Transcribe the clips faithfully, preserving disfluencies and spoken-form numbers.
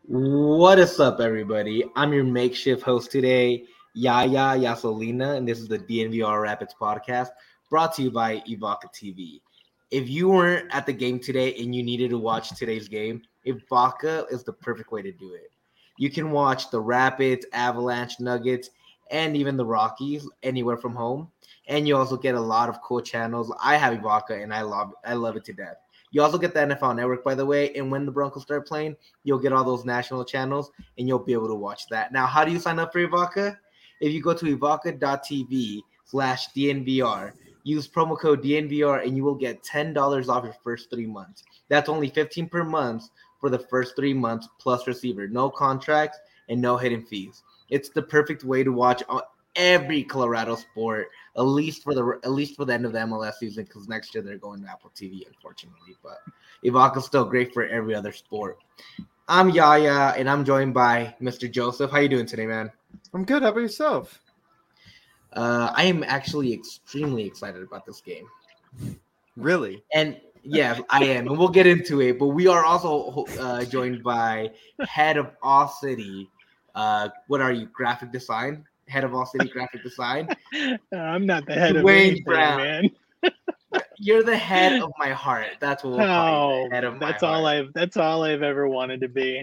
What is up, everybody? I'm your makeshift host today, Yaya Yasolina, and this is the D N V R Rapids podcast brought to you by Evoca T V. If you weren't at the game today and you needed to watch today's game, Evoca is the perfect way to do it. You can watch the Rapids, Avalanche, Nuggets, and even the Rockies anywhere from home. And you also get a lot of cool channels. I have Evoca, and I love I love it to death. You also get the N F L Network, by the way, and when the Broncos start playing, you'll get all those national channels, and you'll be able to watch that. Now, how do you sign up for Evoca? If you go to evoca.tv slash DNVR, use promo code D N V R, and you will get ten dollars off your first three months. That's only fifteen dollars per month for the first three months plus receiver. No contracts and no hidden fees. It's the perfect way to watch every Colorado sport, at least for the at least for the end of the M L S season, because next year they're going to Apple T V, unfortunately. But Evoca's still great for every other sport. I'm Yaya, and I'm joined by Mister Joseph. How you doing today, man? I'm good. How about yourself? Uh, I am actually extremely excited about this game. Really? And yeah, I am, and we'll get into it. But we are also uh, joined by head of All City. Uh, what are you? Graphic design. Head of All City Graphic Design. I'm not the head Dwayne of anything, Brown. man. You're the head of my heart. That's what we'll call you. Oh, The head of that's my all heart. I've that's all I've ever wanted to be.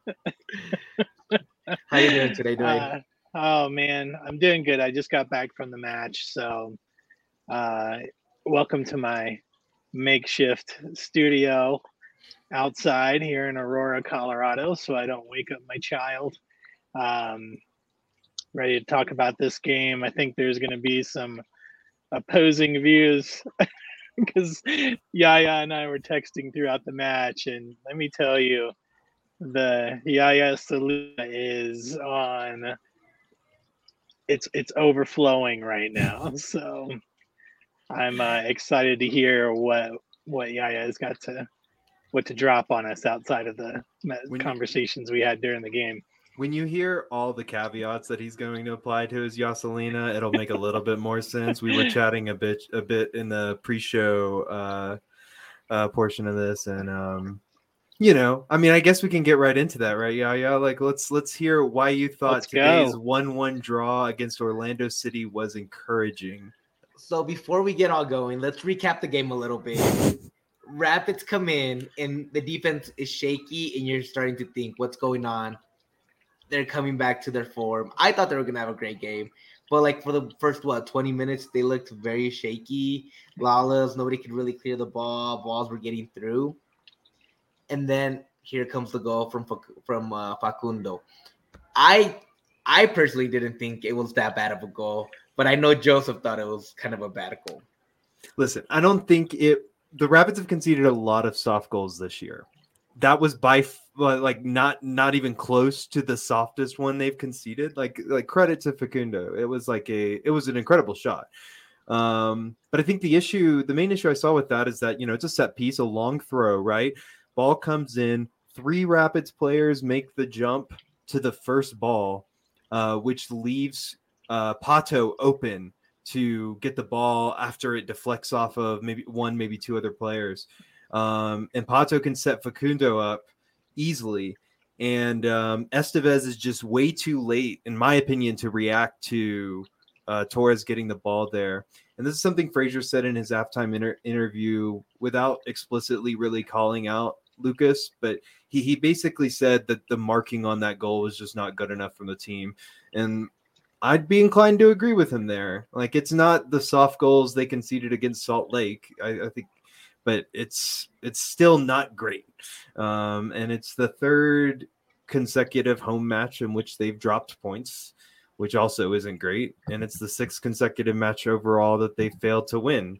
How you doing today, Dwayne? Uh, oh man, I'm doing good. I just got back from the match, so uh, welcome to my makeshift studio outside here in Aurora, Colorado, so I don't wake up my child. Um, ready to talk about this game. I think there's going to be some opposing views because Yaya and I were texting throughout the match, and let me tell you, the Yaya Saluna is on. It's it's overflowing right now, so I'm uh, excited to hear what what Yaya has got to what to drop on us outside of the When conversations we had during the game. When you hear all the caveats that he's going to apply to his Yaselina, it'll make a little bit more sense. We were chatting a bit a bit in the pre-show uh, uh, portion of this, and um, you know, I mean, I guess we can get right into that, right? Yeah, yeah. Like, let's let's hear why you thought Let's today's go. one one draw against Orlando City was encouraging. So before we get all going, let's recap the game a little bit. Rapids come in, and the defense is shaky, and you're starting to think, what's going on? They're coming back to their form. I thought they were going to have a great game. But, like, for the first, what, twenty minutes, they looked very shaky. Lawless, nobody could really clear the ball. Balls were getting through. And then here comes the goal from from uh, Facundo. I I personally didn't think it was that bad of a goal, but I know Joseph thought it was kind of a bad goal. Listen, I don't think it – the Rapids have conceded a lot of soft goals this year. That was by like not not even close to the softest one they've conceded. Like like credit to Facundo, it was like a it was an incredible shot. Um, but I think the issue, the main issue I saw with that is that, you know, it's a set piece, a long throw, right? Ball comes in, three Rapids players make the jump to the first ball, uh, which leaves uh, Pato open to get the ball after it deflects off of maybe one, maybe two other players. Um, and Pato can set Facundo up easily. And um, Estevez is just way too late, in my opinion, to react to uh, Torres getting the ball there. And this is something Frazier said in his halftime inter- interview without explicitly really calling out Lucas. But he, he basically said that the marking on that goal was just not good enough from the team. And I'd be inclined to agree with him there. Like, it's not the soft goals they conceded against Salt Lake. I, I think but it's it's still not great. Um, and it's the third consecutive home match in which they've dropped points, which also isn't great. And it's the sixth consecutive match overall that they failed to win,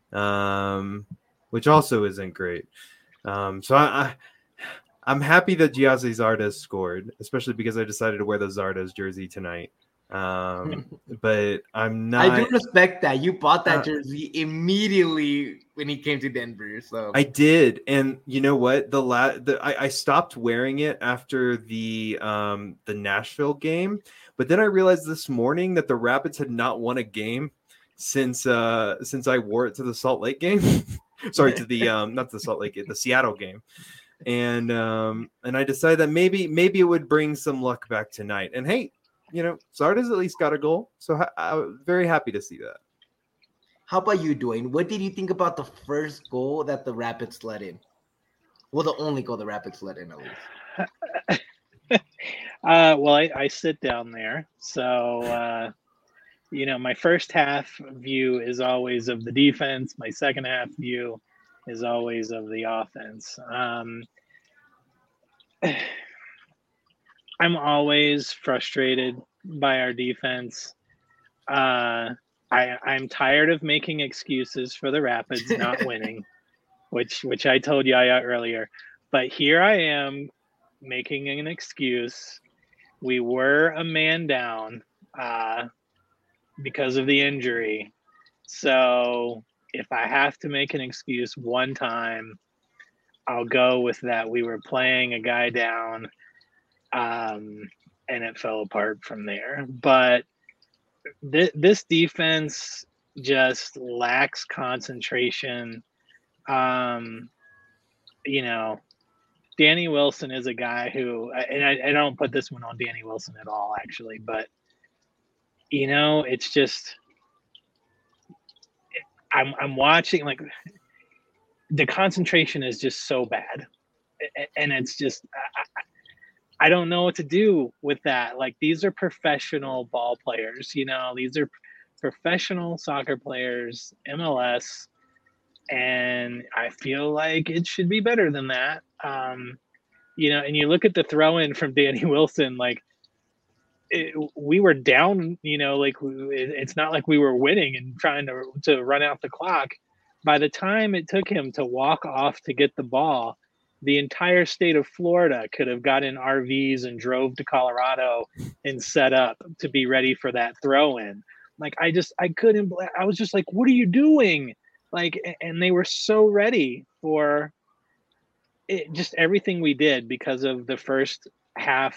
um, which also isn't great. Um, so I, I, I'm happy that Giazzi Zardes scored, especially because I decided to wear the Zardes jersey tonight. Um, but I'm not. I do respect that you bought that uh, jersey immediately when he came to Denver. So I did, and you know what? The la- the I, I stopped wearing it after the um the Nashville game, but then I realized this morning that the Rapids had not won a game since uh since I wore it to the Salt Lake game. Sorry, to the um not the Salt Lake, the Seattle game. and um, and I decided that maybe maybe it would bring some luck back tonight. And hey, you know, Zardes at least got a goal, so ha- I'm very happy to see that. How about you, Dwayne? What did you think about the first goal that the Rapids let in? Well, the only goal the Rapids let in, at least. uh, well, I, I sit down there, so uh, you know, my first half view is always of the defense. My second half view is always of the offense. Um, I'm always frustrated by our defense. Uh, I, I'm tired of making excuses for the Rapids not winning, which which I told Yaya earlier. But here I am making an excuse. We were a man down uh, because of the injury. So if I have to make an excuse one time, I'll go with that. We were playing a guy down, um, and it fell apart from there. But th- this defense just lacks concentration. Um, you know, Danny Wilson is a guy who, and I, I don't put this one on Danny Wilson at all, actually, but, you know, it's just, I'm, I'm watching, like, the concentration is just so bad. And it's just, I, I don't know what to do with that. Like, these are professional ball players, you know, these are professional soccer players, M L S, and I feel like it should be better than that. Um, you know, and you look at the throw in from Danny Wilson, like it, we were down, you know, like it, it's not like we were winning and trying to, to run out the clock. By the time it took him to walk off to get the ball, the entire state of Florida could have got in R Vs and drove to Colorado and set up to be ready for that throw in. Like, I just, I couldn't, I was just like, what are you doing? Like, and they were so ready for it, just everything we did because of the first half.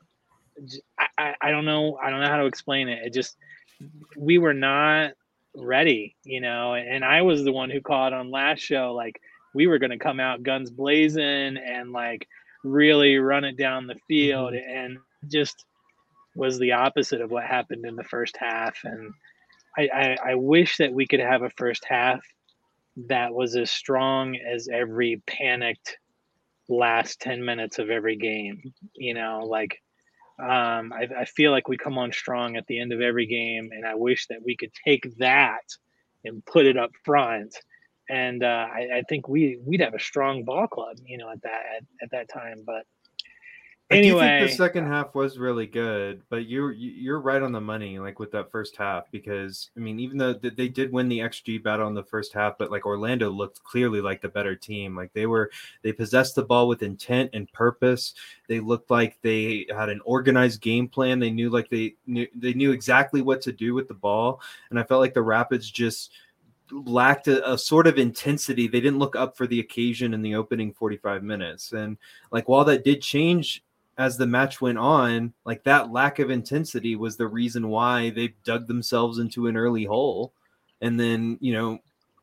I, I, I don't know. I don't know how to explain it. It just, we were not ready, you know, and I was the one who called on last show, like we were going to come out guns blazing and like really run it down the field, mm-hmm. and just was the opposite of what happened in the first half. And I, I, I wish that we could have a first half that was as strong as every panicked last ten minutes of every game, you know, like um, I, I feel like we come on strong at the end of every game, and I wish that we could take that and put it up front. And uh, I, I think we we'd have a strong ball club, you know, at that at, at that time. But anyway, I do think the second half was really good, but you're you're right on the money, like with that first half, because I mean, even though they did win the X G battle in the first half, but like Orlando looked clearly like the better team. Like they were, they possessed the ball with intent and purpose. They looked like they had an organized game plan. They knew like they knew they knew exactly what to do with the ball, and I felt like the Rapids just lacked a, a sort of intensity. They didn't look up for the occasion in the opening forty-five minutes, and like while that did change as the match went on, like that lack of intensity was the reason why they dug themselves into an early hole, and then, you know,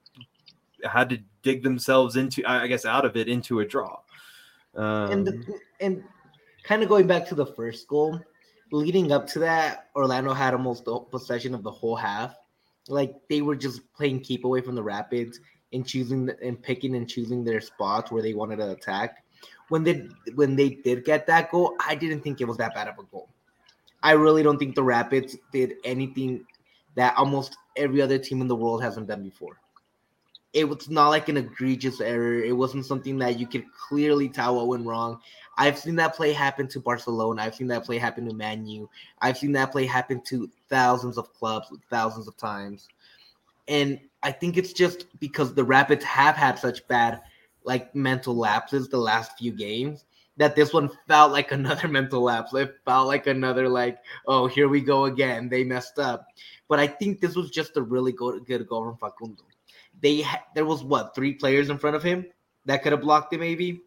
had to dig themselves into, I guess, out of it into a draw. Um, and the, and kind of going back to the first goal, leading up to that, Orlando had almost the possession of the whole half. Like they were just playing keep away from the Rapids and choosing and picking and choosing their spots where they wanted to attack. When they when they did get that goal, I didn't think it was that bad of a goal. I really don't think the Rapids did anything that almost every other team in the world hasn't done before. It was not like an egregious error. It wasn't something that you could clearly tell what went wrong. I've seen that play happen to Barcelona. I've seen that play happen to Man U. I've seen that play happen to thousands of clubs, thousands of times. And I think it's just because the Rapids have had such bad like mental lapses the last few games that this one felt like another mental lapse. It felt like another like, oh, here we go again. They messed up. But I think this was just a really good, good goal from Facundo. They ha- there was what, three players in front of him that could have blocked it maybe,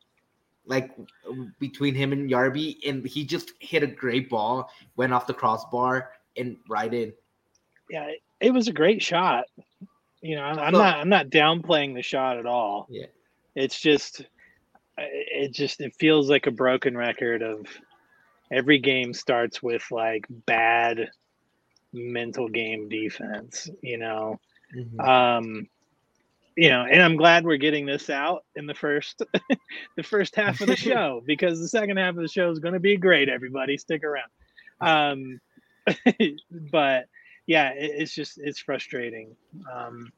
like between him and Yarby, and he just hit a great ball, went off the crossbar and right in. Yeah, it was a great shot. You know, I'm, I'm not I'm not downplaying the shot at all. Yeah. It's just it just it feels like a broken record of every game starts with like bad mental game defense, you know. Mhm. Um, you know, and I'm glad we're getting this out in the first the first half of the show, because the second half of the show is going to be great. Everybody, stick around. Um, but yeah, it, it's just it's frustrating. Um,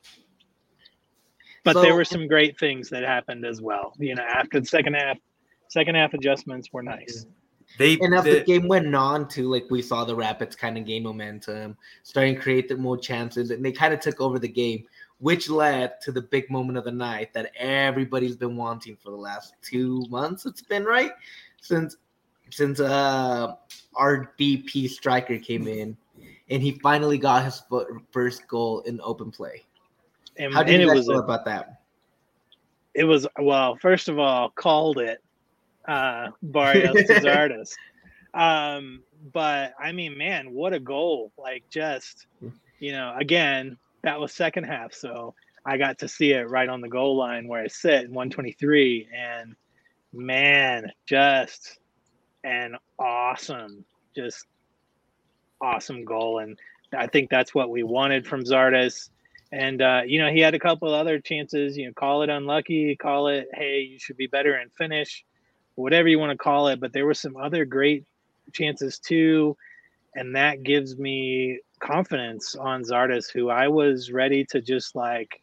but So- there were some great things that happened as well. You know, after the second half, second half adjustments were nice. They And as they, the game went on, too, like we saw the Rapids kind of gain momentum, starting to create the more chances, and they kind of took over the game, which led to the big moment of the night that everybody's been wanting for the last two months. It's been right since since uh, our D P striker came in, and he finally got his first goal in open play. And, How did and you it guys was feel a, about that? it was well. First of all, called it uh, Barrios to Zardes. Um, but I mean, man, what a goal! Like, just you know, again, that was second half, so I got to see it right on the goal line where I sit in one twenty-three, and man, just an awesome, just awesome goal, and I think that's what we wanted from Zardes. And uh, you know, he had a couple of other chances. You know, call it unlucky, call it, hey, you should be better in finish, whatever you want to call it. But there were some other great chances too, and that gives me confidence on Zardes, who I was ready to just like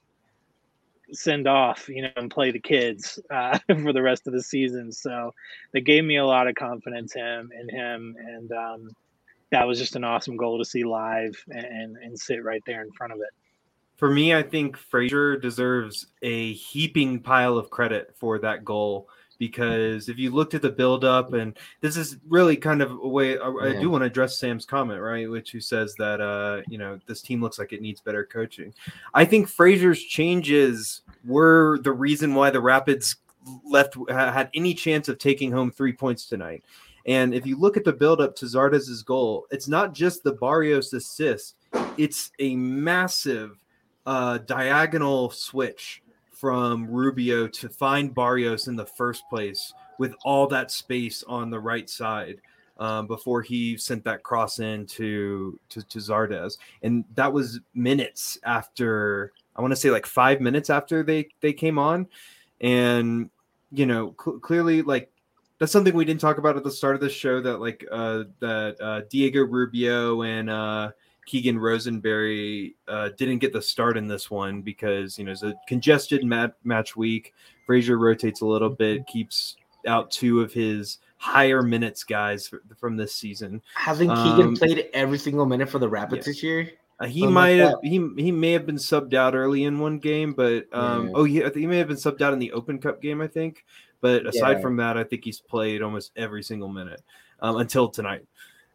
send off, you know, and play the kids uh, for the rest of the season. So they gave me a lot of confidence him in him, and um, that was just an awesome goal to see live and and sit right there in front of it. For me, I think Frazier deserves a heaping pile of credit for that goal, because if you looked at the buildup, and this is really kind of a way I, I Yeah. do want to address Sam's comment, right, which who says that uh, you know, this team looks like it needs better coaching. I think Frazier's changes were the reason why the Rapids left had any chance of taking home three points tonight. And if you look at the buildup to Zardes' goal, it's not just the Barrios assist; it's a massive uh, diagonal switch from Rubio to find Barrios in the first place with all that space on the right side um, before he sent that cross in to, to, to Zardes. And that was minutes after, I want to say like five minutes after they, they came on. And, you know, cl- clearly like, that's something we didn't talk about at the start of the show, that like uh, that uh, Diego Rubio and uh, Keegan Rosenberry uh, didn't get the start in this one because, you know, it's a congested mat- match week. Frazier rotates a little bit, keeps out two of his higher minutes guys for, from this season. Hasn't Keegan Um, played every single minute for the Rapids yeah. this year? Uh, he Something might like have he he may have been subbed out early in one game, but um, Yeah. oh yeah, I think he may have been subbed out in the Open Cup game, I think. But aside Yeah. from that, I think he's played almost every single minute um, until tonight.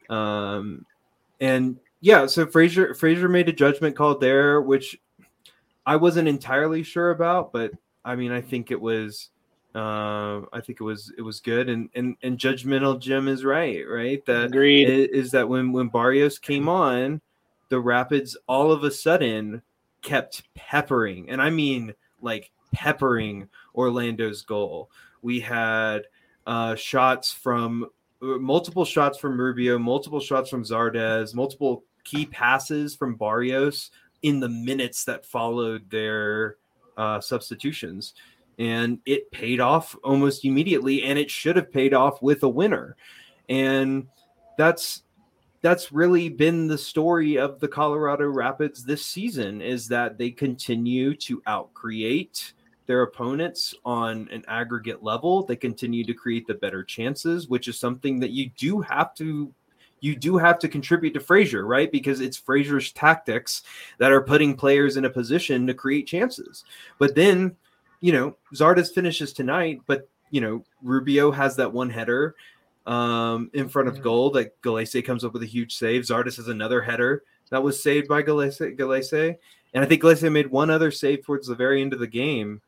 Um, and yeah, so Frazier Frazier made a judgment call there, which I wasn't entirely sure about, but I mean, I think it was. Uh, I think it was it was good, and and and judgmental Jim is right, right? That Agreed. is, is that when when Barrios came on, the Rapids all of a sudden kept peppering, and I mean like peppering Orlando's goal. We had uh, shots from multiple shots from Rubio, multiple shots from Zardes, multiple key passes from Barrios in the minutes that followed their uh, substitutions. And it paid off almost immediately, and it should have paid off with a winner. And that's that's really been the story of the Colorado Rapids this season, is that they continue to outcreate their opponents on an aggregate level. They continue to create the better chances, which is something that you do have to you do have to contribute to Frazier, right? Because it's Frazier's tactics that are putting players in a position to create chances. But then, you know, Zardes finishes tonight, but, you know, Rubio has that one header um, in front of goal that Gallese comes up with a huge save. Zardes has another header that was saved by Gallese. Gallese. And I think Gallese made one other save towards the very end of the game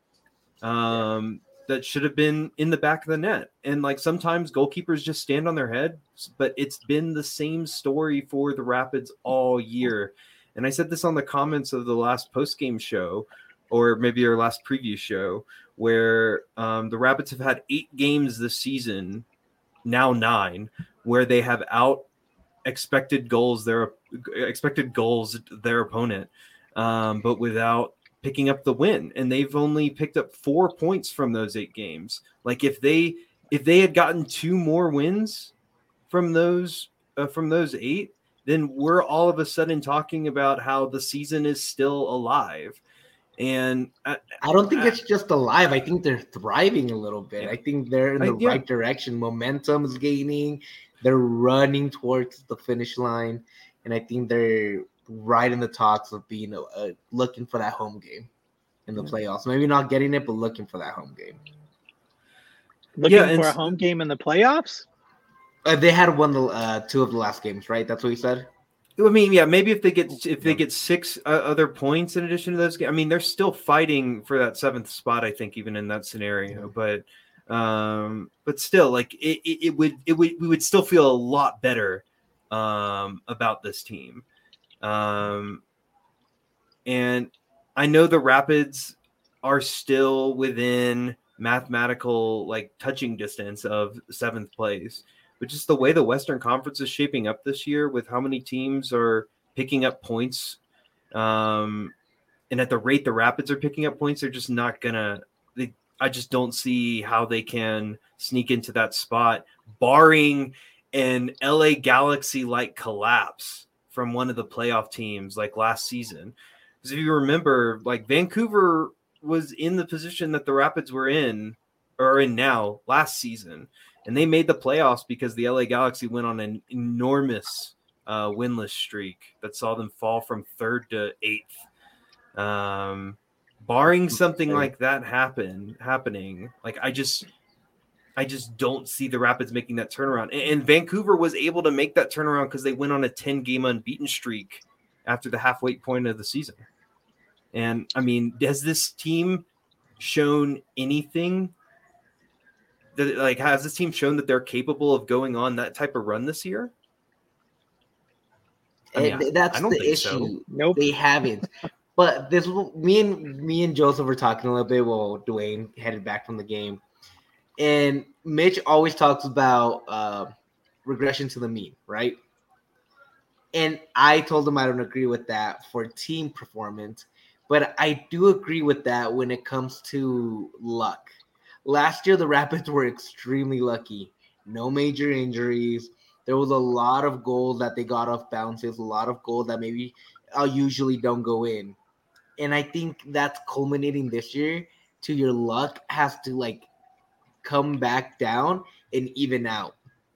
um, that should have been in the back of the net. And like sometimes goalkeepers just stand on their head, but it's been the same story for the Rapids all year. And I said this on the comments of the last post-game show, or maybe our last preview show, where um, the Rapids have had eight games this season, now nine, where they have out expected goals their expected goals their opponent, um, but without picking up the win. And they've only picked up four points from those eight games. Like if they if they had gotten two more wins from those uh, from those eight, then we're all of a sudden talking about how the season is still alive. And I, I don't think I, it's just alive. I think they're thriving a little bit. Yeah. I think they're in the I, yeah. right direction. Momentum is gaining. They're running towards the finish line. And I think they're right in the talks of being uh, looking for that home game in the yeah. playoffs. Maybe not getting it, but looking for that home game. Looking yeah, for a home game in the playoffs? Uh, they had won the uh, two of the last games, right? That's what you said? I mean, yeah, maybe if they get if they get six uh, other points in addition to those games, I mean, they're still fighting for that seventh spot, I think, even in that scenario. But um, but still, like it, it, it would it would we would still feel a lot better um, about this team. Um, and I know the Rapids are still within mathematical like touching distance of seventh place. But just the way the Western Conference is shaping up this year with how many teams are picking up points um, and at the rate the Rapids are picking up points, they're just not going to – I just don't see how they can sneak into that spot, barring an L A Galaxy-like collapse from one of the playoff teams like last season. Because if you remember, like Vancouver was in the position that the Rapids were in or in now last season. And they made the playoffs because the L A Galaxy went on an enormous uh, winless streak that saw them fall from third to eighth. Um, barring something like that happen happening, like I just, I just don't see the Rapids making that turnaround. And, and Vancouver was able to make that turnaround because they went on a ten-game unbeaten streak after the halfway point of the season. And I mean, has this team shown anything? That, like, has this team shown that they're capable of going on that type of run this year? I mean, and that's the issue. So. Nope, they haven't. But this, me and me and Joseph were talking a little bit while Dwayne headed back from the game, and Mitch always talks about uh, regression to the mean, right? And I told him I don't agree with that for team performance, but I do agree with that when it comes to luck. Last year, the Rapids were extremely lucky. No major injuries. There was a lot of goals that they got off bounces, a lot of goals that maybe uh, usually don't go in. And I think that's culminating this year to your luck has to, like, come back down and even out.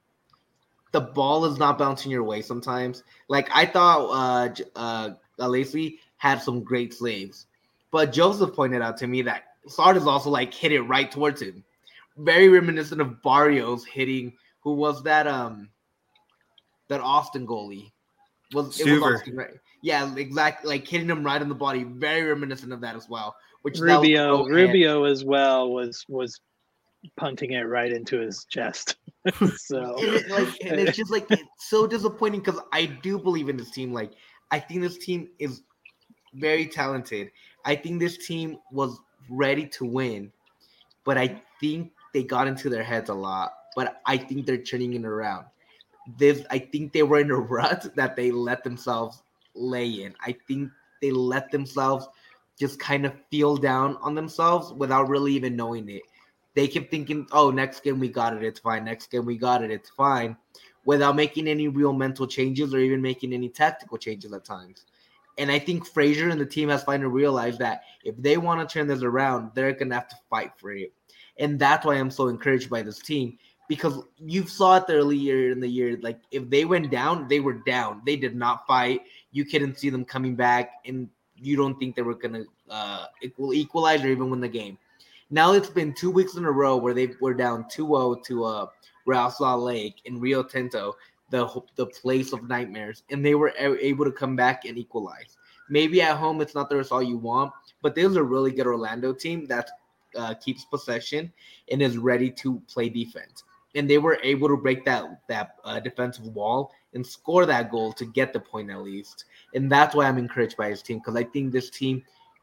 The ball is not bouncing your way sometimes. Like, I thought uh, uh, Alesi had some great saves. But Joseph pointed out to me that Sardes also like hit it right towards him. Very reminiscent of Barrios hitting who was that um that Austin goalie. Was it was Austin, right? Yeah, exactly, like hitting him right in the body. Very reminiscent of that as well. Which Rubio Rubio as well was was punting it right into his chest. So and, it, like, and it's just like it's so disappointing because I do believe in this team. Like I think this team is very talented. I think this team was ready to win, but I think they got into their heads a lot. But I think they're turning it around. This, I think they were in a rut that they let themselves lay in. I think they let themselves just kind of feel down on themselves without really even knowing it. They kept thinking, oh, next game we got it, it's fine. Next game we got it, it's fine, without making any real mental changes or even making any tactical changes at times. And I think Fraser and the team has finally realized that if they want to turn this around, they're going to have to fight for it. And that's why I'm so encouraged by this team, because you saw it earlier in the year. Like, if they went down, they were down. They did not fight. You couldn't see them coming back, and you don't think they were going to uh, equalize or even win the game. Now it's been two weeks in a row where they were down two oh to uh, Real Salt Lake in Rio Tinto, the the place of nightmares, and they were able to come back and equalize. Maybe at home it's not the result you want, but there's a really good Orlando team that uh, keeps possession and is ready to play defense. And they were able to break that that uh, defensive wall and score that goal to get the point at least. And that's why I'm encouraged by his team, because I think this team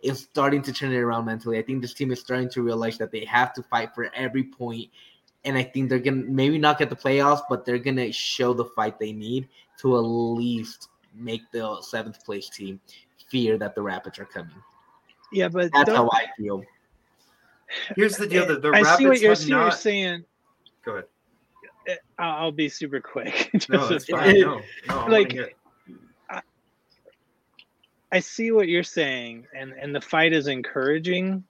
is starting to turn it around mentally. I think this team is starting to realize that they have to fight for every point, and I think they're gonna maybe not get the playoffs, but they're gonna show the fight they need to at least make the seventh place team fear that the Rapids are coming. Yeah, but that's don't- how I feel. Here's the deal: the, the I Rapids see what you're, have see what you're not. saying. Go ahead. I'll I'll be super quick. No, that's Just- fine. No, no, I wanna Like, hear it. I see what you're saying, and, and the fight is encouraging,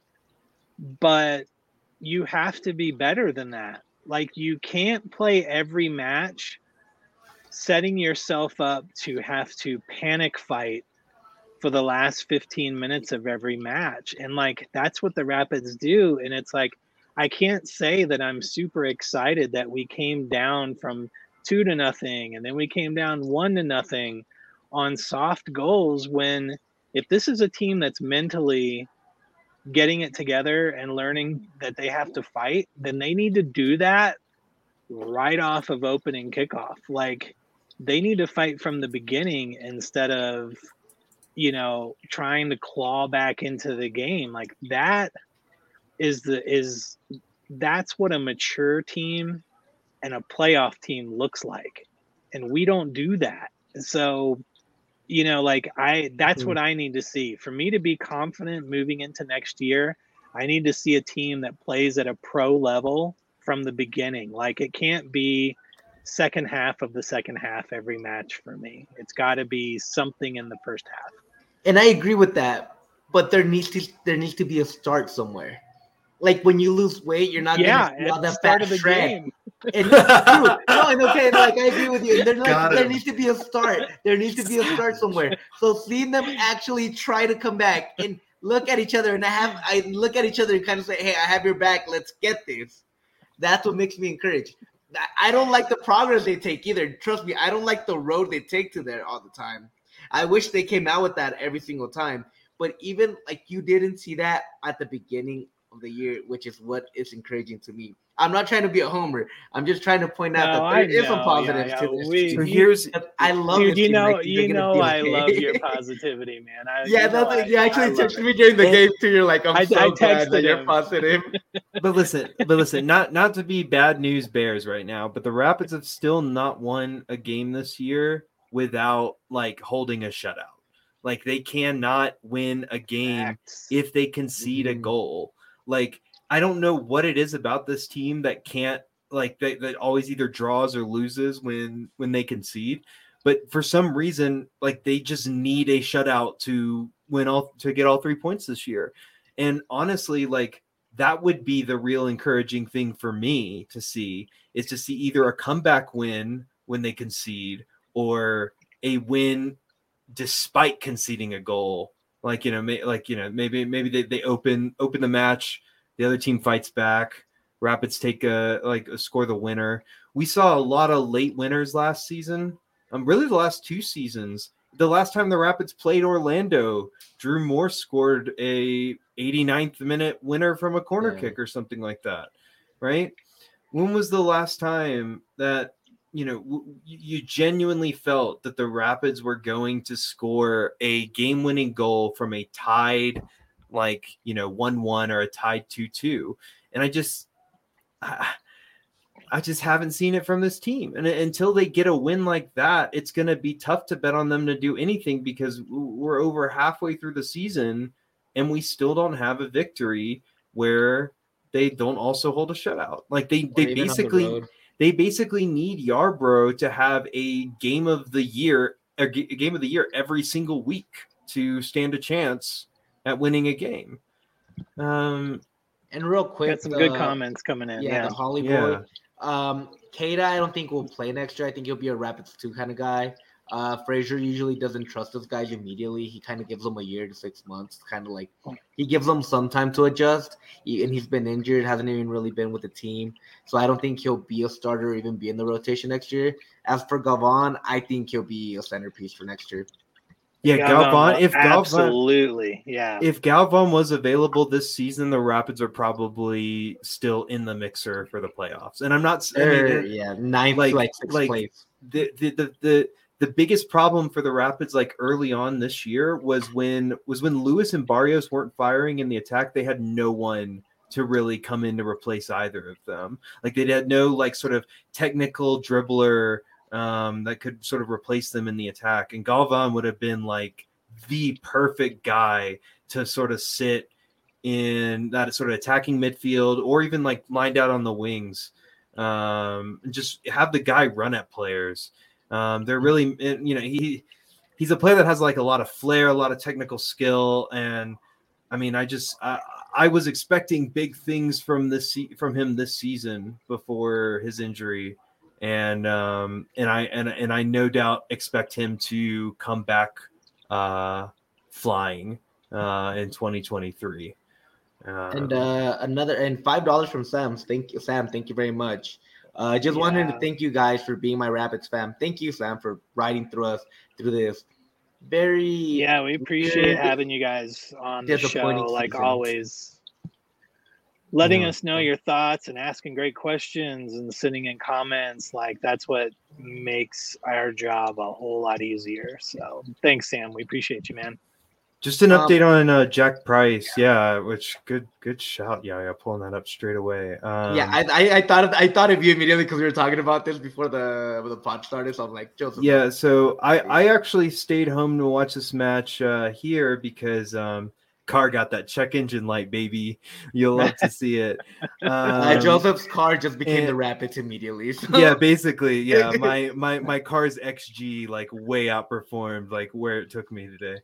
but you have to be better than that. Like, you can't play every match setting yourself up to have to panic fight for the last fifteen minutes of every match. And like, that's what the Rapids do. And it's like, I can't say that I'm super excited that we came down from two to nothing and then we came down one to nothing on soft goals, when if this is a team that's mentally getting it together and learning that they have to fight, then they need to do that right off of opening kickoff. Like, they need to fight from the beginning instead of, you know, trying to claw back into the game. Like, that is the is that's what a mature team and a playoff team looks like, and we don't do that. So, you know, like, I that's what I need to see for me to be confident moving into next year. I need to see a team that plays at a pro level from the beginning. Like, it can't be second half of the second half every match for me. It's got to be something in the first half. And I agree with that, but there needs to there needs to be a start somewhere. Like, when you lose weight, you're not Yeah, going to see all at the that start fat of the shred. game. And true. No, and okay, like, I agree with you. And there's like, Got there him. needs to be a start. There needs to be a start somewhere. So seeing them actually try to come back and look at each other, and I have I look at each other and kind of say, "Hey, I have your back. Let's get this." That's what makes me encouraged. I- I don't like the progress they take either. Trust me, I don't like the road they take to there all the time. I wish they came out with that every single time. But even like, you didn't see that at the beginning of the year, which is what is encouraging to me. I'm not trying to be a homer. I'm just trying to point out No, that I there is some know, positives yeah, to yeah, this we- team. So here's I love Dude, this you team, and I know, think you they're gonna know, be I okay. love your positivity, man. I, Yeah, you know, that's, I- you actually I love texted it. me during the And- game too. You're like, I'm I- so I glad that texted you're him. positive. but listen, but listen, not not to be bad news bears right now, but the Rapids have still not won a game this year without like holding a shutout. Like, they cannot win a game Facts. if they concede a Mhm. goal. Like, I don't know what it is about this team that can't like that, that always either draws or loses when when they concede. But for some reason, like, they just need a shutout to win all to get all three points this year. And honestly, like, that would be the real encouraging thing for me to see, is to see either a comeback win when they concede or a win despite conceding a goal. Like, you know, may, like, you know, maybe maybe they, they open open the match, the other team fights back, Rapids take a like a score the winner. We saw a lot of late winners last season. Um, really the last two seasons. The last time the Rapids played Orlando, Drew Morse scored a eighty-ninth minute winner from a corner Yeah. kick or something like that, right? When was the last time that, you know, w- you genuinely felt that the Rapids were going to score a game-winning goal from a tied, like, you know, one one or a tied two two? And I just, I, I just haven't seen it from this team. And until they get a win like that, it's going to be tough to bet on them to do anything, because we're over halfway through the season and we still don't have a victory where they don't also hold a shutout. Like, they, Or they even on the basically, road. they basically need Yarbrough to have a game of the year, a g- a game of the year every single week to stand a chance at winning a game. Um, And real quick, Got some good the- comments coming in. Yeah, Yeah. the Holly Yeah. boy. Um, Keita, I don't think will play next year. I think he'll be a Rapids two kind of guy. Uh, Frazier usually doesn't trust those guys immediately. He kind of gives them a year to six months. Kind of like he gives them some time to adjust. He, and he's been injured, hasn't even really been with the team. So I don't think he'll be a starter or even be in the rotation next year. As for Galvan, I think he'll be a centerpiece for next year. yeah, Galvan, if Galvan, absolutely, yeah. if Galvan was available this season, the Rapids are probably still in the mixer for the playoffs. And I'm not, I mean, Or, yeah, ninth like- to like sixth like- place. the, the the the the biggest problem for the Rapids, like early on this year, was when was when Lewis and Barrios weren't firing in the attack. They had no one to really come in to replace either of them. Like they had no like sort of technical dribbler um, that could sort of replace them in the attack. And Galvan would have been like the perfect guy to sort of sit in that sort of attacking midfield or even like lined out on the wings. Um, and just have the guy run at players. Um, they're really, you know, he he's a player that has like a lot of flair, a lot of technical skill, and I mean, I just I, I was expecting big things from this from him this season before his injury, and um, and I and and I no doubt expect him to come back uh, flying uh, in twenty twenty-three. Um, and uh, another and five dollars from Sam. Thank you, Sam. Thank you very much. I uh, just yeah. wanted to thank you guys for being my Rapids fan. Thank you, Sam, for riding through us through this very yeah. We appreciate having you guys on the show, like season. Always. Letting yeah. us know your thoughts and asking great questions and sending in comments. Like that's what makes our job a whole lot easier. So thanks, Sam. We appreciate you, man. Just an update um, on uh, Jack Price, yeah. yeah. Which good, good shout, yeah, yeah. Pulling that up straight away. Um, yeah, I, I, I thought, of, I thought of you immediately because we were talking about this before the the pod started. So I'm like, Joseph. Yeah, so I, I actually stayed home to watch this match uh, here because um, car got that check engine light, baby. You'll love to see it. Um, uh, Joseph's car just became and, the Rapids immediately. So. Yeah, basically, yeah. My my my car's X G like way outperformed like where it took me today.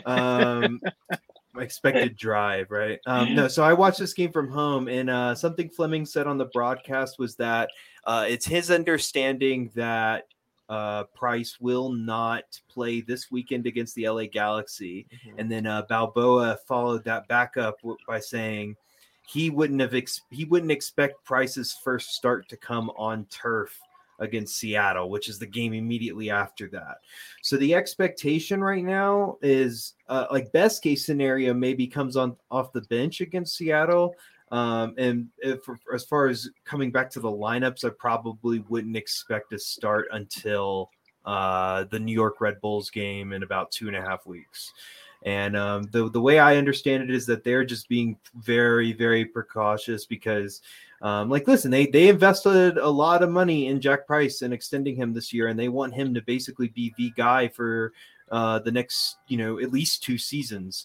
Um, my expected drive, right? Um, no, so I watched this game from home, and uh, something Fleming said on the broadcast was that uh, it's his understanding that Uh, Price will not play this weekend against the L A Galaxy. Mm-hmm. And then uh, Balboa followed that back up w- by saying he wouldn't have ex- he wouldn't expect Price's first start to come on turf against Seattle, which is the game immediately after that. So the expectation right now is uh, like best case scenario maybe comes on off the bench against Seattle. Um, and if, as far as coming back to the lineups, I probably wouldn't expect a start until uh, the New York Red Bulls game in about two and a half weeks. And um, the the way I understand it is that they're just being very, very precautious because, um, like, listen, they they invested a lot of money in Jack Price and extending him this year, and they want him to basically be the guy for uh, the next, you know, at least two seasons.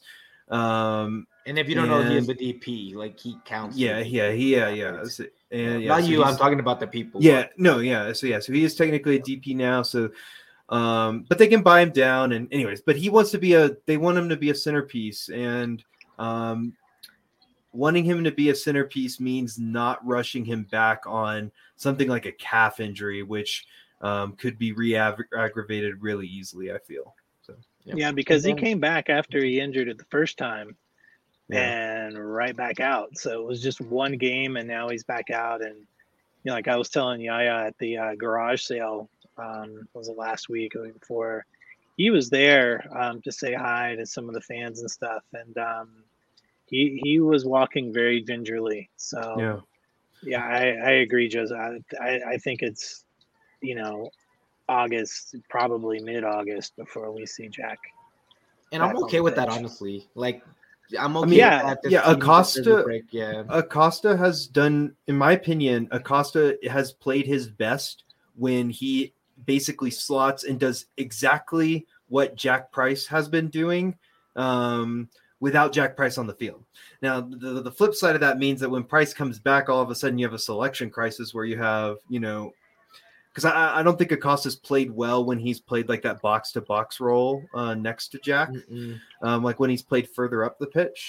Um, And if you don't and, know, he is the D P. Like he counts. Yeah, yeah, he, yeah, yeah. So, and, yeah Not so you. I'm talking about the people. Yeah, but. no, yeah. So yeah, so he is technically a D P now. So, um, but they can buy him down. And anyways, but he wants to be a. They want him to be a centerpiece, and um, wanting him to be a centerpiece means not rushing him back on something like a calf injury, which um, could be re-aggravated really easily. I feel. So yeah, yeah because he came back after he injured it the first time. Yeah. And right back out. So it was just one game, and now he's back out. And you know, like I was telling Yaya at the uh, garage sale, um, was it last week or the week before? He was there um, to say hi to some of the fans and stuff, and um, he he was walking very gingerly. So yeah, yeah, I, I agree, Joseph. I, I I think it's you know August, probably mid August before we see Jack. And I'm okay with that, honestly. Like. I'm okay. I mean, yeah, yeah. Acosta, break, yeah. Acosta has done, in my opinion, Acosta has played his best when he basically slots and does exactly what Jack Price has been doing, um, without Jack Price on the field. Now, the the flip side of that means that when Price comes back, all of a sudden you have a selection crisis where you have, you know. Because I, I don't think Acosta's played well when he's played like that box to box role uh, next to Jack, um, like when he's played further up the pitch.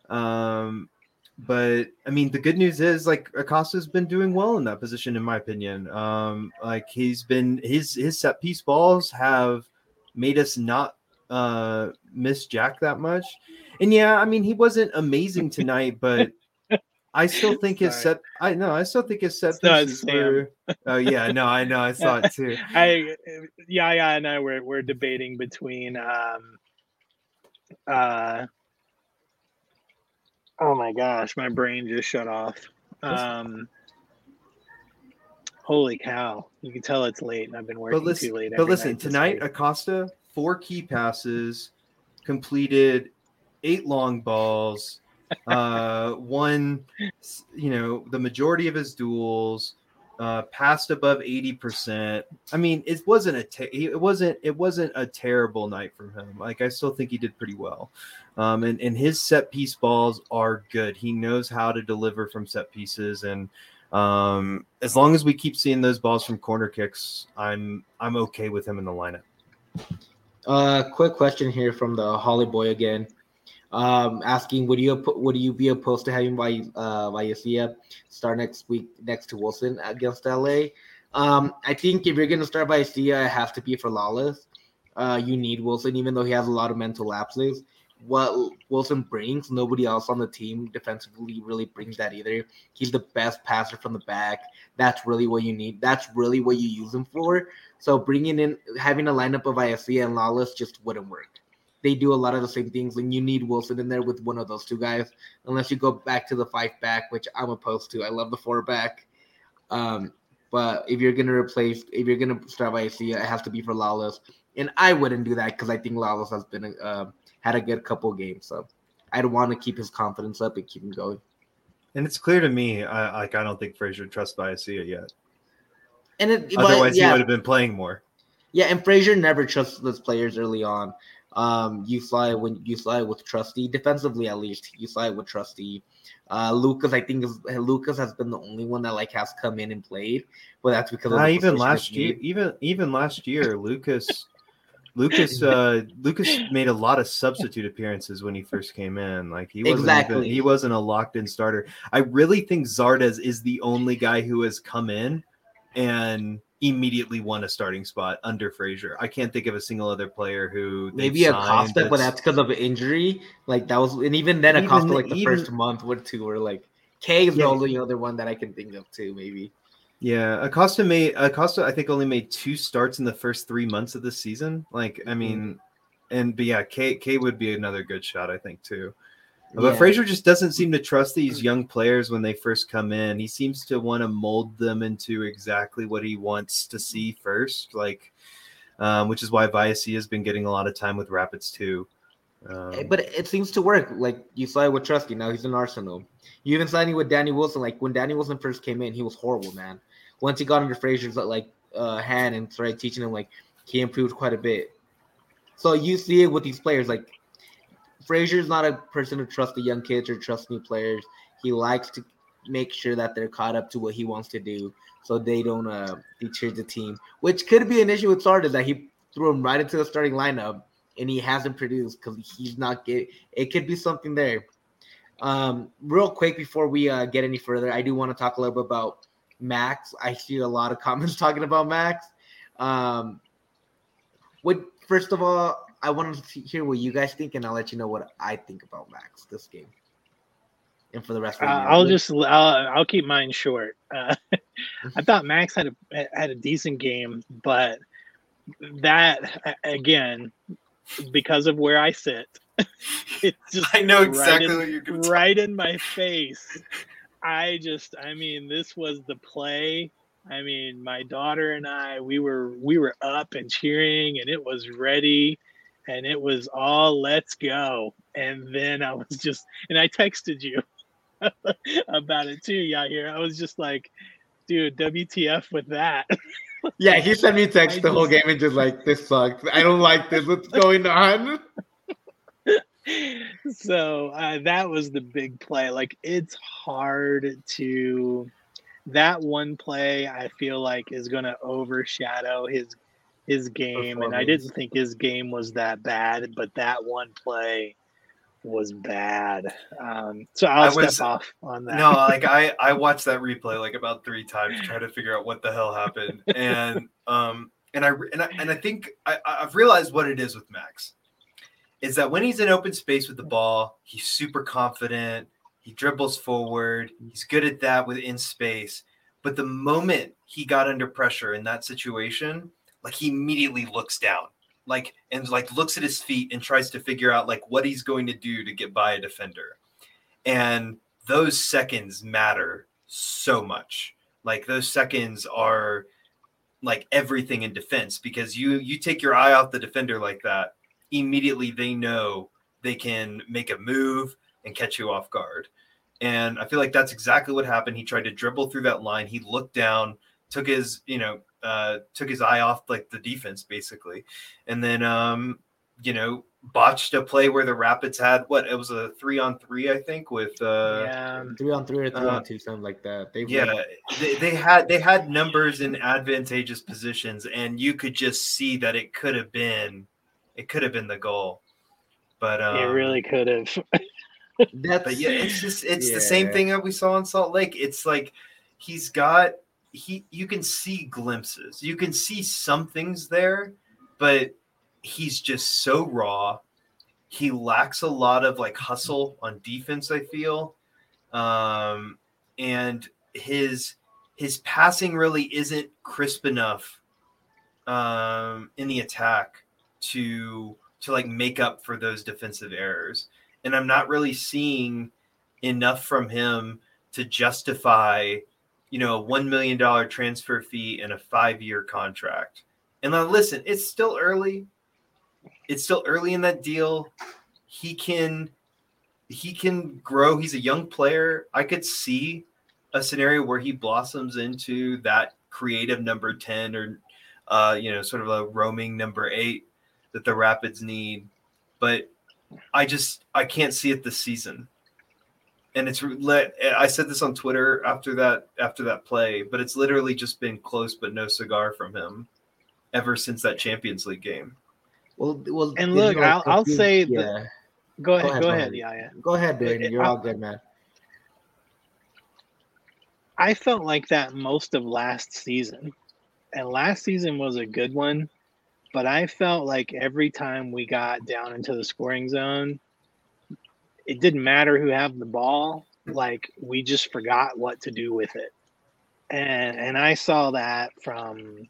Um, but I mean, the good news is like Acosta's been doing well in that position, in my opinion. Um, like he's been his his set piece balls have made us not uh, miss Jack that much. And yeah, I mean, he wasn't amazing tonight, but. I still think his set. I know. I still think his set pieces were. Oh yeah, no, I know. I saw it too. I, yeah, yeah, and I were we're debating between. Um, uh, oh my gosh, my brain just shut off. Um, Holy cow! You can tell it's late, and I've been working But listen, too late. but every listen night this tonight, week. Acosta, four key passes, completed eight long balls, uh, won, you know, the majority of his duels, uh, passed above eighty percent. I mean, it wasn't a te- it wasn't it wasn't a terrible night from him. Like, I still think he did pretty well. Um, and, and his set piece balls are good. He knows how to deliver from set pieces, and um, as long as we keep seeing those balls from corner kicks, I'm I'm okay with him in the lineup. Uh, quick question here from the Holly Boy again, um, asking would you would you be opposed to having Vi- uh, Vallecilla start next week next to Wilson against L A? Um, I think if you're gonna start Vallecilla, it has to be for Lawless. Uh, you need Wilson, even though he has a lot of mental lapses. What Wilson brings, nobody else on the team defensively really brings that either. He's the best passer from the back. That's really what you need. That's really what you use him for. So bringing in, having a lineup of Vallecilla and Lawless just wouldn't work. They do a lot of the same things, and you need Wilson in there with one of those two guys, unless you go back to the five back, which I'm opposed to. I love the four back. Um, but if you're gonna replace, if you're gonna start Vallecilla, it has to be for Lawless, and I wouldn't do that because I think Lawless has been a, uh, had a good couple of games, so I'd want to keep his confidence up and keep him going. And it's clear to me, I like I don't think Frazier trusts Vallecilla yet. And it, Otherwise, but, yeah, he would have been playing more. Yeah, and Frazier never trusts those players early on. Um, you slide when you slide with Trusty defensively, at least you slide with Trusty. Uh, Lucas, I think is, Lucas has been the only one that like has come in and played, but that's because of uh, the even position last of year, need. even even last year, Lucas. Lucas uh, Lucas made a lot of substitute appearances when he first came in. Like he wasn't Exactly. even, he wasn't a locked in starter. I really think Zardes is the only guy who has come in and immediately won a starting spot under Frazier. I can't think of a single other player who Maybe Acosta, signed but that's because of injury. Like that was, and even then, But Acosta even- like the even- first month or two were like K is Yeah. the only other one that I can think of too. Maybe. Yeah, Acosta made Acosta. I think only made two starts in the first three months of the season. Like, I Mhm. mean, and but yeah, K K would be another good shot, I think too. But Yeah. Frazier just doesn't seem to trust these young players when they first come in. He seems to want to mold them into exactly what he wants to see first, like, um, which is why Vallecilla has been getting a lot of time with Rapids too. Um, But it seems to work. Like you saw it with Trusty. Now he's in Arsenal. You even signing with Danny Wilson. Like when Danny Wilson first came in, he was horrible, man. Once he got under Frazier's like uh, hand and started teaching him, like he improved quite a bit. So you see it with these players. Like Frazier's not a person who trusts the young kids or trusts new players. He likes to make sure that they're caught up to what he wants to do, so they don't uh, deter the team. Which could be an issue with Sardis that he threw him right into the starting lineup and he hasn't produced because he's not getting. It could be something there. Um, real quick before we uh, get any further, I do want to talk a little bit about Max. I see a lot of comments talking about Max. Um, what first of all, I want to hear what you guys think, and I'll let you know what I think about Max this game, and for the rest of Uh, the year. I'll just I'll, I'll keep mine short. Uh, I thought Max had a had a decent game, but that again, because of where I sit, it's just I know right exactly in, what you're going to right in my face. I just, I mean, this was the play. I mean, my daughter and I, we were we were up and cheering, and it was ready, and it was all let's go. And then I was just, and I texted you about it too, Yahir. I was just like, dude, W T F with that. Yeah, he sent me text I the whole just- game and just like, this sucks. I don't like this. What's going on? So uh, that was the big play. Like, it's hard to that one play. I feel like is going to overshadow his his game, and I didn't think his game was that bad, but that one play was bad. Um, so I'll I step was- off on that. No, like I, I watched that replay like about three times, trying to figure out what the hell happened, and um, and I and I and I think I, I've realized what it is with Max, is that when he's in open space with the ball, he's super confident. He dribbles forward. He's good at that within space. But the moment he got under pressure in that situation, like he immediately looks down, like and like looks at his feet and tries to figure out like what he's going to do to get by a defender. And those seconds matter so much. Like those seconds are like everything in defense, because you you take your eye off the defender like that, immediately they know they can make a move and catch you off guard. And I feel like that's exactly what happened. He tried to dribble through that line. He looked down, took his, you know, uh, took his eye off like the defense basically. And then, um, you know, botched a play where the Rapids had what it was a three on three, I think, with uh yeah, three on three or three uh, on two, something like that. They yeah, they, they had they had numbers in advantageous positions, and you could just see that it could have been it could have been the goal. But um, it really could have. That's but yeah, it's just it's yeah. the same thing that we saw in Salt Lake. It's like he's got he you can see glimpses, you can see some things there, but he's just so raw. He lacks a lot of like hustle on defense, I feel. Um, and his his passing really isn't crisp enough um, in the attack to to like make up for those defensive errors. And I'm not really seeing enough from him to justify, you know, a one million dollars transfer fee and a five-year contract. And now listen, it's still early. It's still early in that deal. He can he can grow. He's a young player. I could see a scenario where he blossoms into that creative number ten or, uh, you know, sort of a roaming number eight that the Rapids need. But I just I can't see it this season. And it's let I said this on Twitter after that after that play, but it's literally just been close but no cigar from him ever since that Champions League game. Well, well, And look, I'll, I'll say, yeah. the, go ahead, Go ahead, go go ahead, ahead. yeah, yeah. Go ahead, Dwayne. It- You're I- all good, man. I felt like that most of last season, and last season was a good one, but I felt like every time we got down into the scoring zone, it didn't matter who had the ball. Like we just forgot what to do with it, and and I saw that from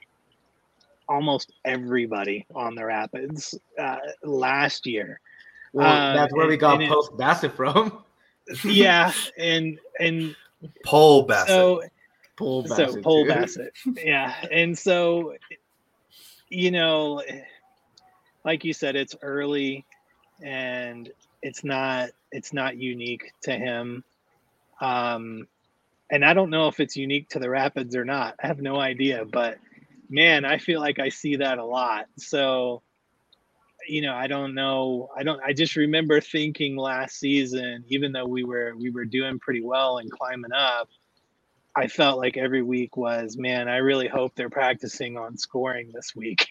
almost everybody on the Rapids uh, last year. Well, Uh, that's where we and- got and it- Post Bassett from. Yeah, and and Pole Bassett. so Paul so Bassett. Paul too. Bassett, yeah, and so you know, like you said, it's early, and it's not it's not unique to him, um, and I don't know if it's unique to the Rapids or not. I have no idea, but man, I feel like I see that a lot. So, you know, I don't know. I don't. I just remember thinking last season, even though we were we were doing pretty well and climbing up, I felt like every week was, man, I really hope they're practicing on scoring this week,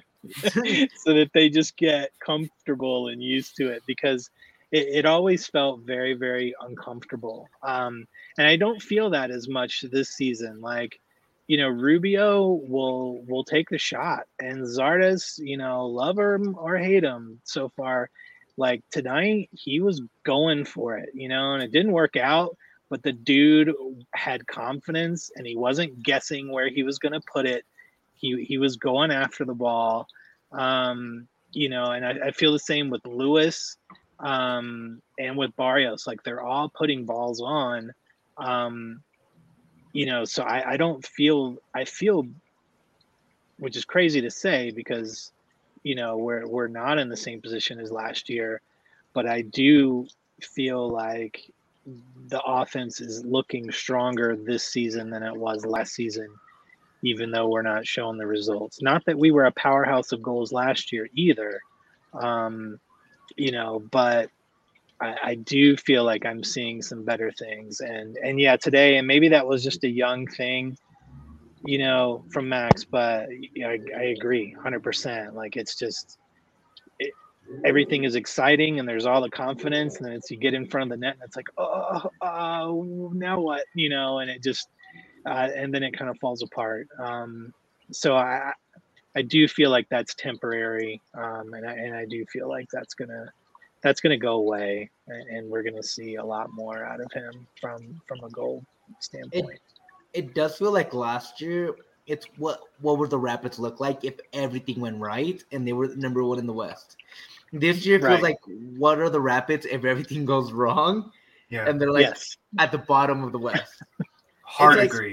so that they just get comfortable and used to it, because it, it always felt very, very uncomfortable. Um, and I don't feel that as much this season. Like, you know, Rubio will will take the shot, and Zardes, you know, love him or hate him so far, like tonight he was going for it, you know, and it didn't work out, but the dude had confidence and he wasn't guessing where he was going to put it. He he was going after the ball, um, you know, and I, I feel the same with Lewis um, and with Barrios. Like they're all putting balls on. Um, You know, so I, I don't feel I feel, which is crazy to say because, you know, we're we're not in the same position as last year, but I do feel like the offense is looking stronger this season than it was last season, even though we're not showing the results. Not that we were a powerhouse of goals last year either, um, you know, but I, I do feel like I'm seeing some better things, and and yeah, today, and maybe that was just a young thing, you know, from Max, but yeah, I, I agree, one hundred percent. Like it's just it, everything is exciting, and there's all the confidence, and then it's you get in front of the net, and it's like, oh, oh now what, you know, and it just, uh, and then it kind of falls apart. Um, so I I do feel like that's temporary, um, and I and I do feel like that's gonna. That's going to go away, and we're going to see a lot more out of him from from a goal standpoint. It, it does feel like last year. It's what what would the Rapids look like if everything went right and they were number one in the West. This year feels Right. like what are the Rapids if everything goes wrong, Yeah, and they're like Yes. at the bottom of the West. hard it's like- agree.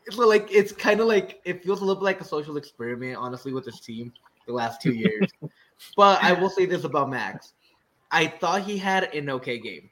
So like it's kind of like it feels a little bit like a social experiment, honestly, with this team the last two years. But I will say this about Max: I thought he had an okay game.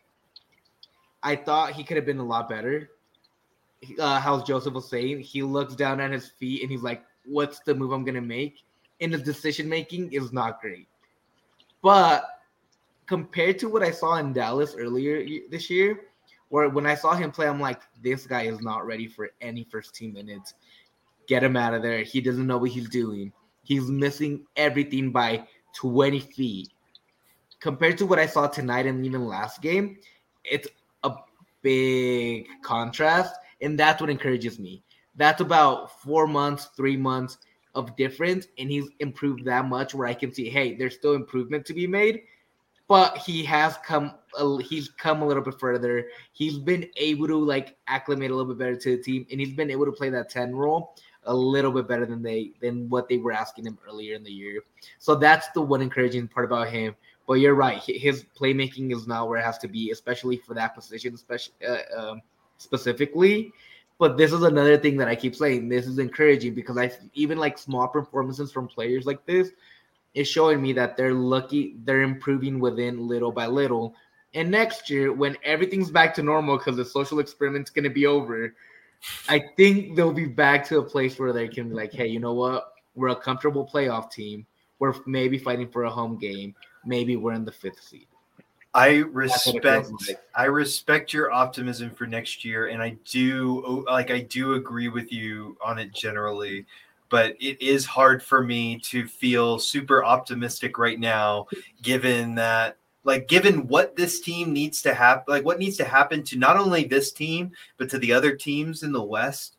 I thought he could have been a lot better. Uh, how Joseph was saying, he looks down at his feet and he's like, "What's the move I'm gonna make?" And his decision making is not great. But compared to what I saw in Dallas earlier this year, where when I saw him play, I'm like, this guy is not ready for any first team minutes. Get him out of there. He doesn't know what he's doing. He's missing everything by twenty feet. Compared to what I saw tonight and even last game, it's a big contrast, and that's what encourages me. That's about four months, three months of difference, and he's improved that much where I can see, hey, there's still improvement to be made, but he has come a, he's come a little bit further. He's been able to like acclimate a little bit better to the team, and he's been able to play that ten role a little bit better than they than what they were asking him earlier in the year. So that's the one encouraging part about him. But you're right, his playmaking is not where it has to be, especially for that position, especially uh, um, specifically. But this is another thing that I keep saying. This is encouraging because I even like small performances from players like this is showing me that they're lucky, they're improving within little by little. And next year, when everything's back to normal because the social experiment's going to be over, I think they'll be back to a place where they can be like, hey, you know what? We're a comfortable playoff team. We're maybe fighting for a home game. Maybe we're in the fifth seed. I respect like. I respect your optimism for next year, and I do like I do agree with you on it generally, but it is hard for me to feel super optimistic right now, given that like given what this team needs to happen, like what needs to happen to not only this team but to the other teams in the West,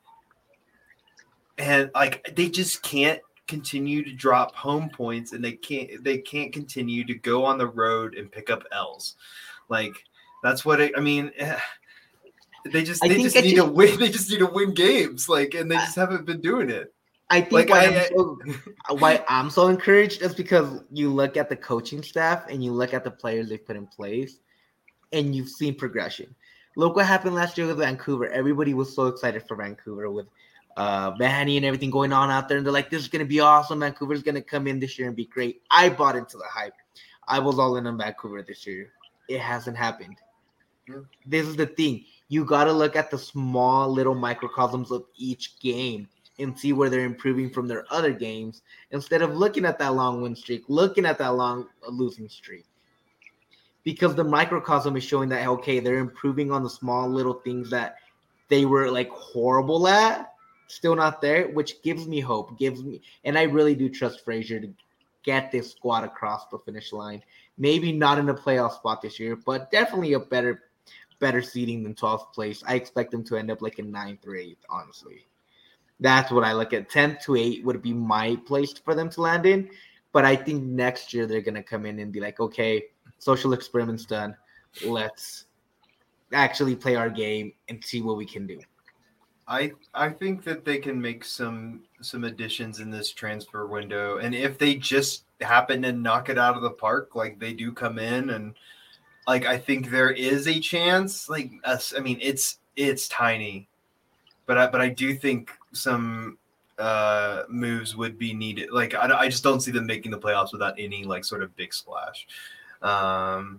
and like they just can't continue to drop home points, and they can't they can't continue to go on the road and pick up L's. Like that's what it, I mean. They just they just need just, to win. They just need to win games. Like, and they just I, haven't been doing it. I think like, why, I, I'm so, why I'm so encouraged is because you look at the coaching staff and you look at the players they put in place, and you've seen progression. Look what happened last year with Vancouver. Everybody was so excited for Vancouver with uh Vanny and everything going on out there, and they're like, this is gonna be awesome. Vancouver's gonna come in this year and be great. I bought into the hype. I was all in on Vancouver this year. It hasn't happened. Yeah. This is the thing. You gotta look at the small little microcosms of each game and see where they're improving from their other games instead of looking at that long win streak, looking at that long losing streak. Because the microcosm is showing that, okay, they're improving on the small little things that they were like horrible at. Still not there, which gives me hope, gives me, and I really do trust Frazier to get this squad across the finish line. Maybe not in a playoff spot this year, but definitely a better, better seeding than twelfth place. I expect them to end up like in ninth or eighth, honestly. That's what I look at. tenth to eighth would be my place for them to land in, but I think next year they're gonna come in and be like, okay, social experiment's done. Let's actually play our game and see what we can do. I I think that they can make some some additions in this transfer window, and if they just happen to knock it out of the park, like they do come in, and like I think there is a chance. Like us, I mean, it's it's tiny, but I but I do think some uh, moves would be needed. Like I I just don't see them making the playoffs without any like sort of big splash. Um,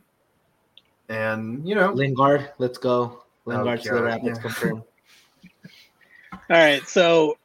and you know, Lingard, let's go. Lingard to the Rapids, yeah. confirmed. All right, so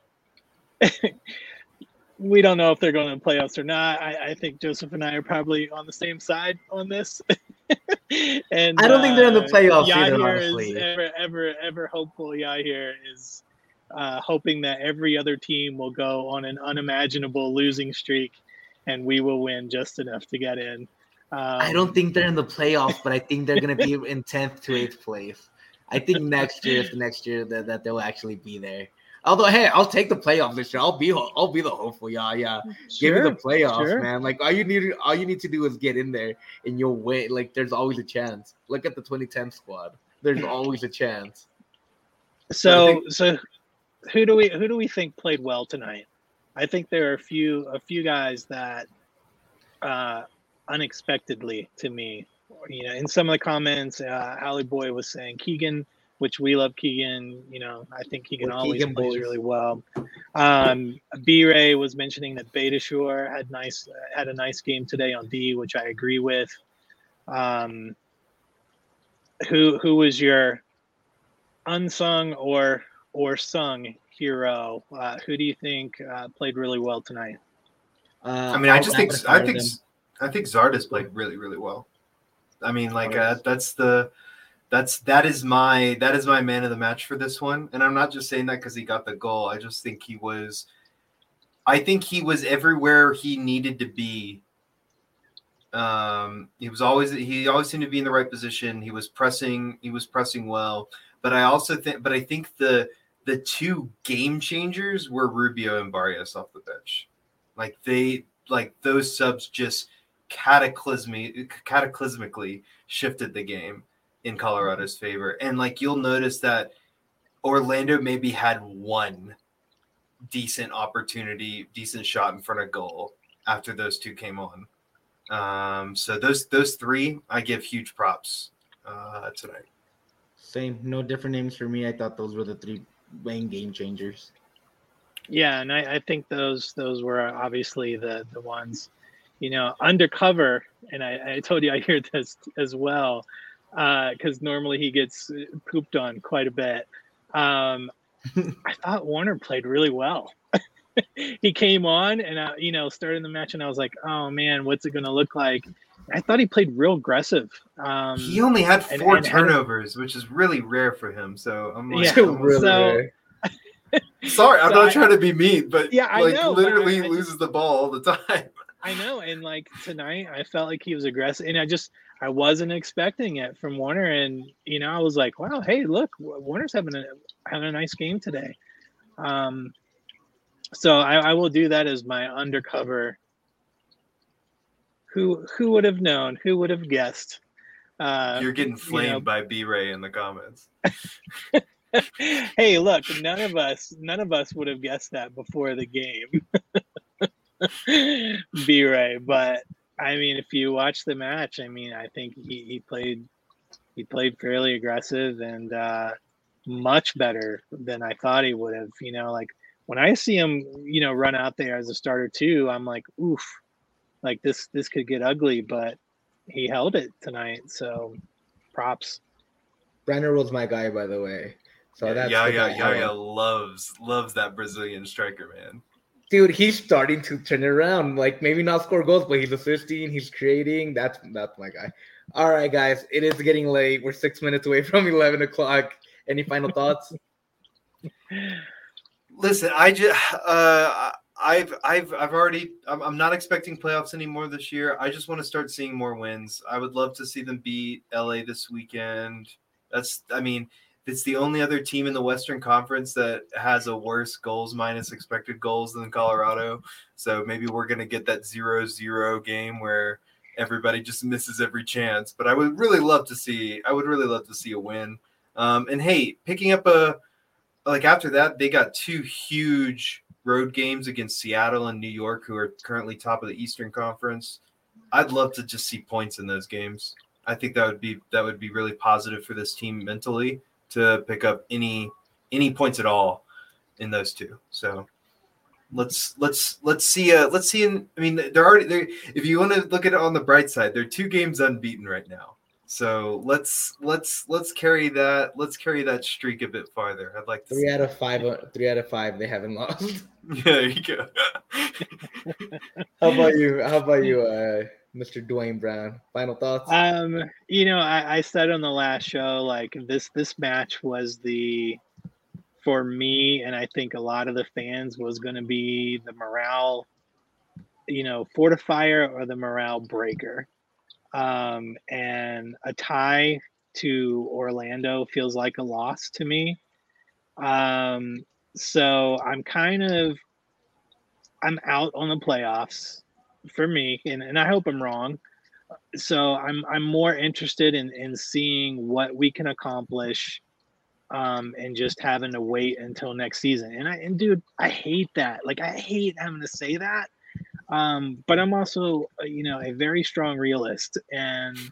we don't know if they're going to the playoffs or not. I, I think Joseph and I are probably on the same side on this. and I don't uh, think they're in the playoffs Yahir either, honestly. Is ever, ever, ever hopeful. Yahir is uh, hoping that every other team will go on an unimaginable losing streak, and we will win just enough to get in. Um, I don't think they're in the playoffs, but I think they're going to be in tenth to eighth place. I think next year is the next year that, that they'll actually be there. Although, hey, I'll take the playoffs this year. I'll be I'll be the hopeful, yeah, yeah. Sure, Give me the playoffs, sure. man. Like all you need all you need to do is get in there and you'll win. Like there's always a chance. Look at the twenty ten squad. There's always a chance. So think- so who do we who do we think played well tonight? I think there are a few a few guys that uh, unexpectedly to me. You know, in some of the comments, uh, Allie Boy was saying Keegan which we love Keegan. You know, I think Keegan We're always Keegan plays boys. really well. Um, B-Ray was mentioning that Beitashour had nice had a nice game today on D, which I agree with. Um, who who was your unsung or or sung hero? Uh, who do you think uh, played really well tonight? Uh, I mean, I I'll just think rapid I fire think them. I think Zardes played really really well. I mean, like uh, Zardes. that's the that's that is my that is my man of the match for this one, and I'm not just saying that because he got the goal. I just think he was, I think he was everywhere he needed to be. Um, he was always he always seemed to be in the right position. He was pressing he was pressing well, but I also think but I think the the two game changers were Rubio and Barrios off the bench. Like they like those subs just cataclysmic cataclysmically shifted the game in Colorado's favor. And like you'll notice that Orlando maybe had one decent opportunity, decent shot in front of goal after those two came on. Um, so those those three I give huge props uh, tonight. Same, no different names for me. I thought those were the three main game changers. Yeah, and I, I think those those were obviously the the ones, you know, undercover. And I, I told you I hear this as well, because uh, normally he gets pooped on quite a bit. Um, I thought Warner played really well. He came on and I, you know, started the match, and I was like, oh man, what's it going to look like? I thought he played real aggressive. Um, He only had and- four and had- turnovers, which is really rare for him. So I'm like, Yeah, I'm really so- rare. sorry, I'm So not I- trying to be mean, but Yeah, I like know, but literally I- I loses just- the ball all the time. I know, and like tonight, I felt like he was aggressive, and I just I wasn't expecting it from Warner, and you know, I was like, wow, hey, look, Warner's having a having a nice game today. Um, so I, I will do that as my undercover. Who who would have known? Who would have guessed? Uh, You're getting you flamed know, by B-Ray in the comments. hey, look, none of us none of us would have guessed that before the game. B-Ray, but I mean, if you watch the match, I mean, I think he, he played he played fairly aggressive and uh, much better than I thought he would have. You know, like when I see him, you know, run out there as a starter too, I'm like, oof, like this this could get ugly, but he held it tonight, so props. Brenner was my guy, by the way. So yeah, that's yeah, the yeah, guy yeah, I yeah. like. Loves loves that Brazilian striker, man. Dude, he's starting to turn it around. Like maybe not score goals, but he's assisting, he's creating. That's that's my guy. All right, guys, it is getting late. We're six minutes away from eleven o'clock. Any final thoughts? Listen, I just uh, I've I've I've already I'm, I'm not expecting playoffs anymore this year. I just want to start seeing more wins. I would love to see them beat L A this weekend. That's I mean, it's the only other team in the Western Conference that has a worse goals minus expected goals than Colorado. So maybe we're gonna get that zero zero game where everybody just misses every chance. But I would really love to see I would really love to see a win. Um, and hey, picking up a like after that, they got two huge road games against Seattle and New York, who are currently top of the Eastern Conference. I'd love to just see points in those games. I think that would be that would be really positive for this team mentally to pick up any any points at all in those two. So let's let's let's see uh let's see in, I mean they're already they if you want to look at it on the bright side, they're two games unbeaten right now. So let's let's let's carry that let's carry that streak a bit farther. I'd like to Three see out of five. uh, Three out of five. They haven't lost. Yeah, there you go. How about you? How about you, uh, Mister Dwayne Brown? Final thoughts? Um, you know, I, I said on the last show, like this this match was the for me, and I think a lot of the fans was going to be the morale, you know, fortifier or the morale breaker. Um, and a tie to Orlando feels like a loss to me. Um, so I'm kind of I'm out on the playoffs for me, and, and I hope I'm wrong. So I'm I'm more interested in, in seeing what we can accomplish, um, and just having to wait until next season. And I and dude, I hate that. Like I hate having to say that. Um, but I'm also, uh, you know, a very strong realist, and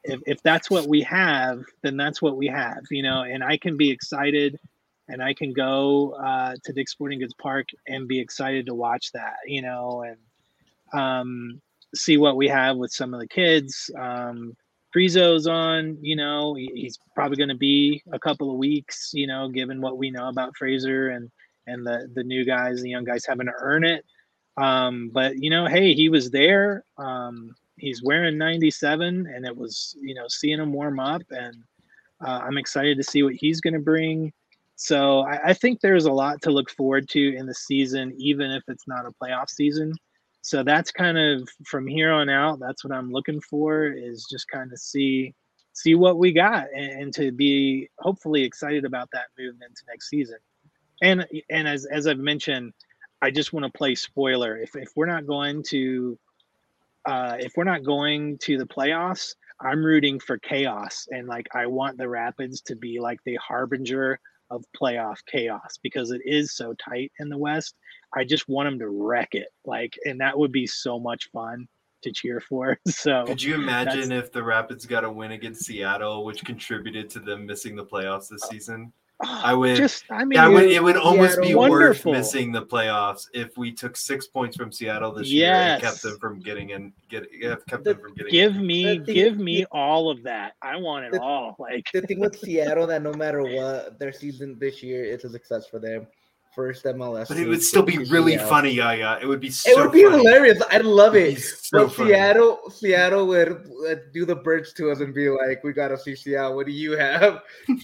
if, if that's what we have, then that's what we have, you know, and I can be excited and I can go uh, to Dick's Sporting Goods Park and be excited to watch that, you know, and um, see what we have with some of the kids. Um, Frizo's on, you know, he, he's probably going to be a couple of weeks, you know, given what we know about Fraser and, and the, the new guys, the young guys having to earn it. Um, but, you know, hey, he was there. Um, he's wearing ninety-seven, and it was, you know, seeing him warm up, and uh, I'm excited to see what he's going to bring. So I, I think there's a lot to look forward to in the season, even if it's not a playoff season. So that's kind of from here on out, that's what I'm looking for, is just kind of see see what we got, and, and to be hopefully excited about that moving into next season. And and as as I've mentioned, I just want to play spoiler. If if we're not going to uh, if we're not going to the playoffs, I'm rooting for chaos, and like I want the Rapids to be like the harbinger of playoff chaos, because it is so tight in the West. I just want them to wreck it, like, and that would be so much fun to cheer for. So could you imagine if the Rapids got a win against Seattle, which contributed to them missing the playoffs this season? I would just, I mean, yeah, it would, it would almost Seattle, be wonderful. worth missing the playoffs if we took six points from Seattle this year and Yes. kept them from getting in. Get kept The- them from getting. Give in. me, The thing- give me all of that. I want it The- all. Like, The thing with Seattle, that no matter what, their season this year, it's a success for them. First M L S. But it team would still be to really Seattle. funny, yeah, yeah. It would be so It would be funny. hilarious. I'd love It'd it. be so but funny. Seattle, Seattle would uh, do the bridge to us and be like, "We got to see Seattle. What do you have?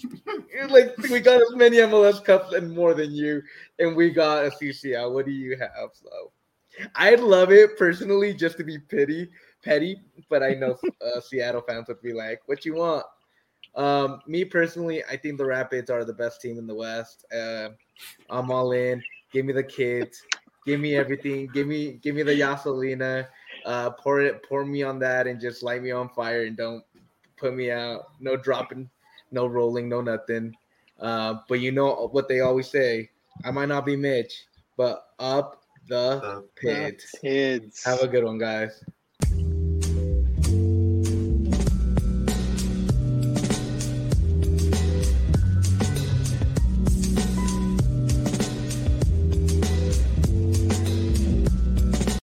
Like, we got as many M L S Cups and more than you, and we got a C C L. What do you have?" So, I'd love it personally, just to be petty, petty. But I know uh, Seattle fans would be like, "What you want?" Um, me personally, I think the Rapids are the best team in the West. Uh, I'm all in. Give me the kids. Give me everything. Give me, give me the Yasolina. Uh, pour it, pour me on that, and just light me on fire, and don't put me out. No dropping, no rolling, no nothing. Uh, but you know what they always say. I might not be Mitch, but up the The- pit. kids. Have a good one, guys.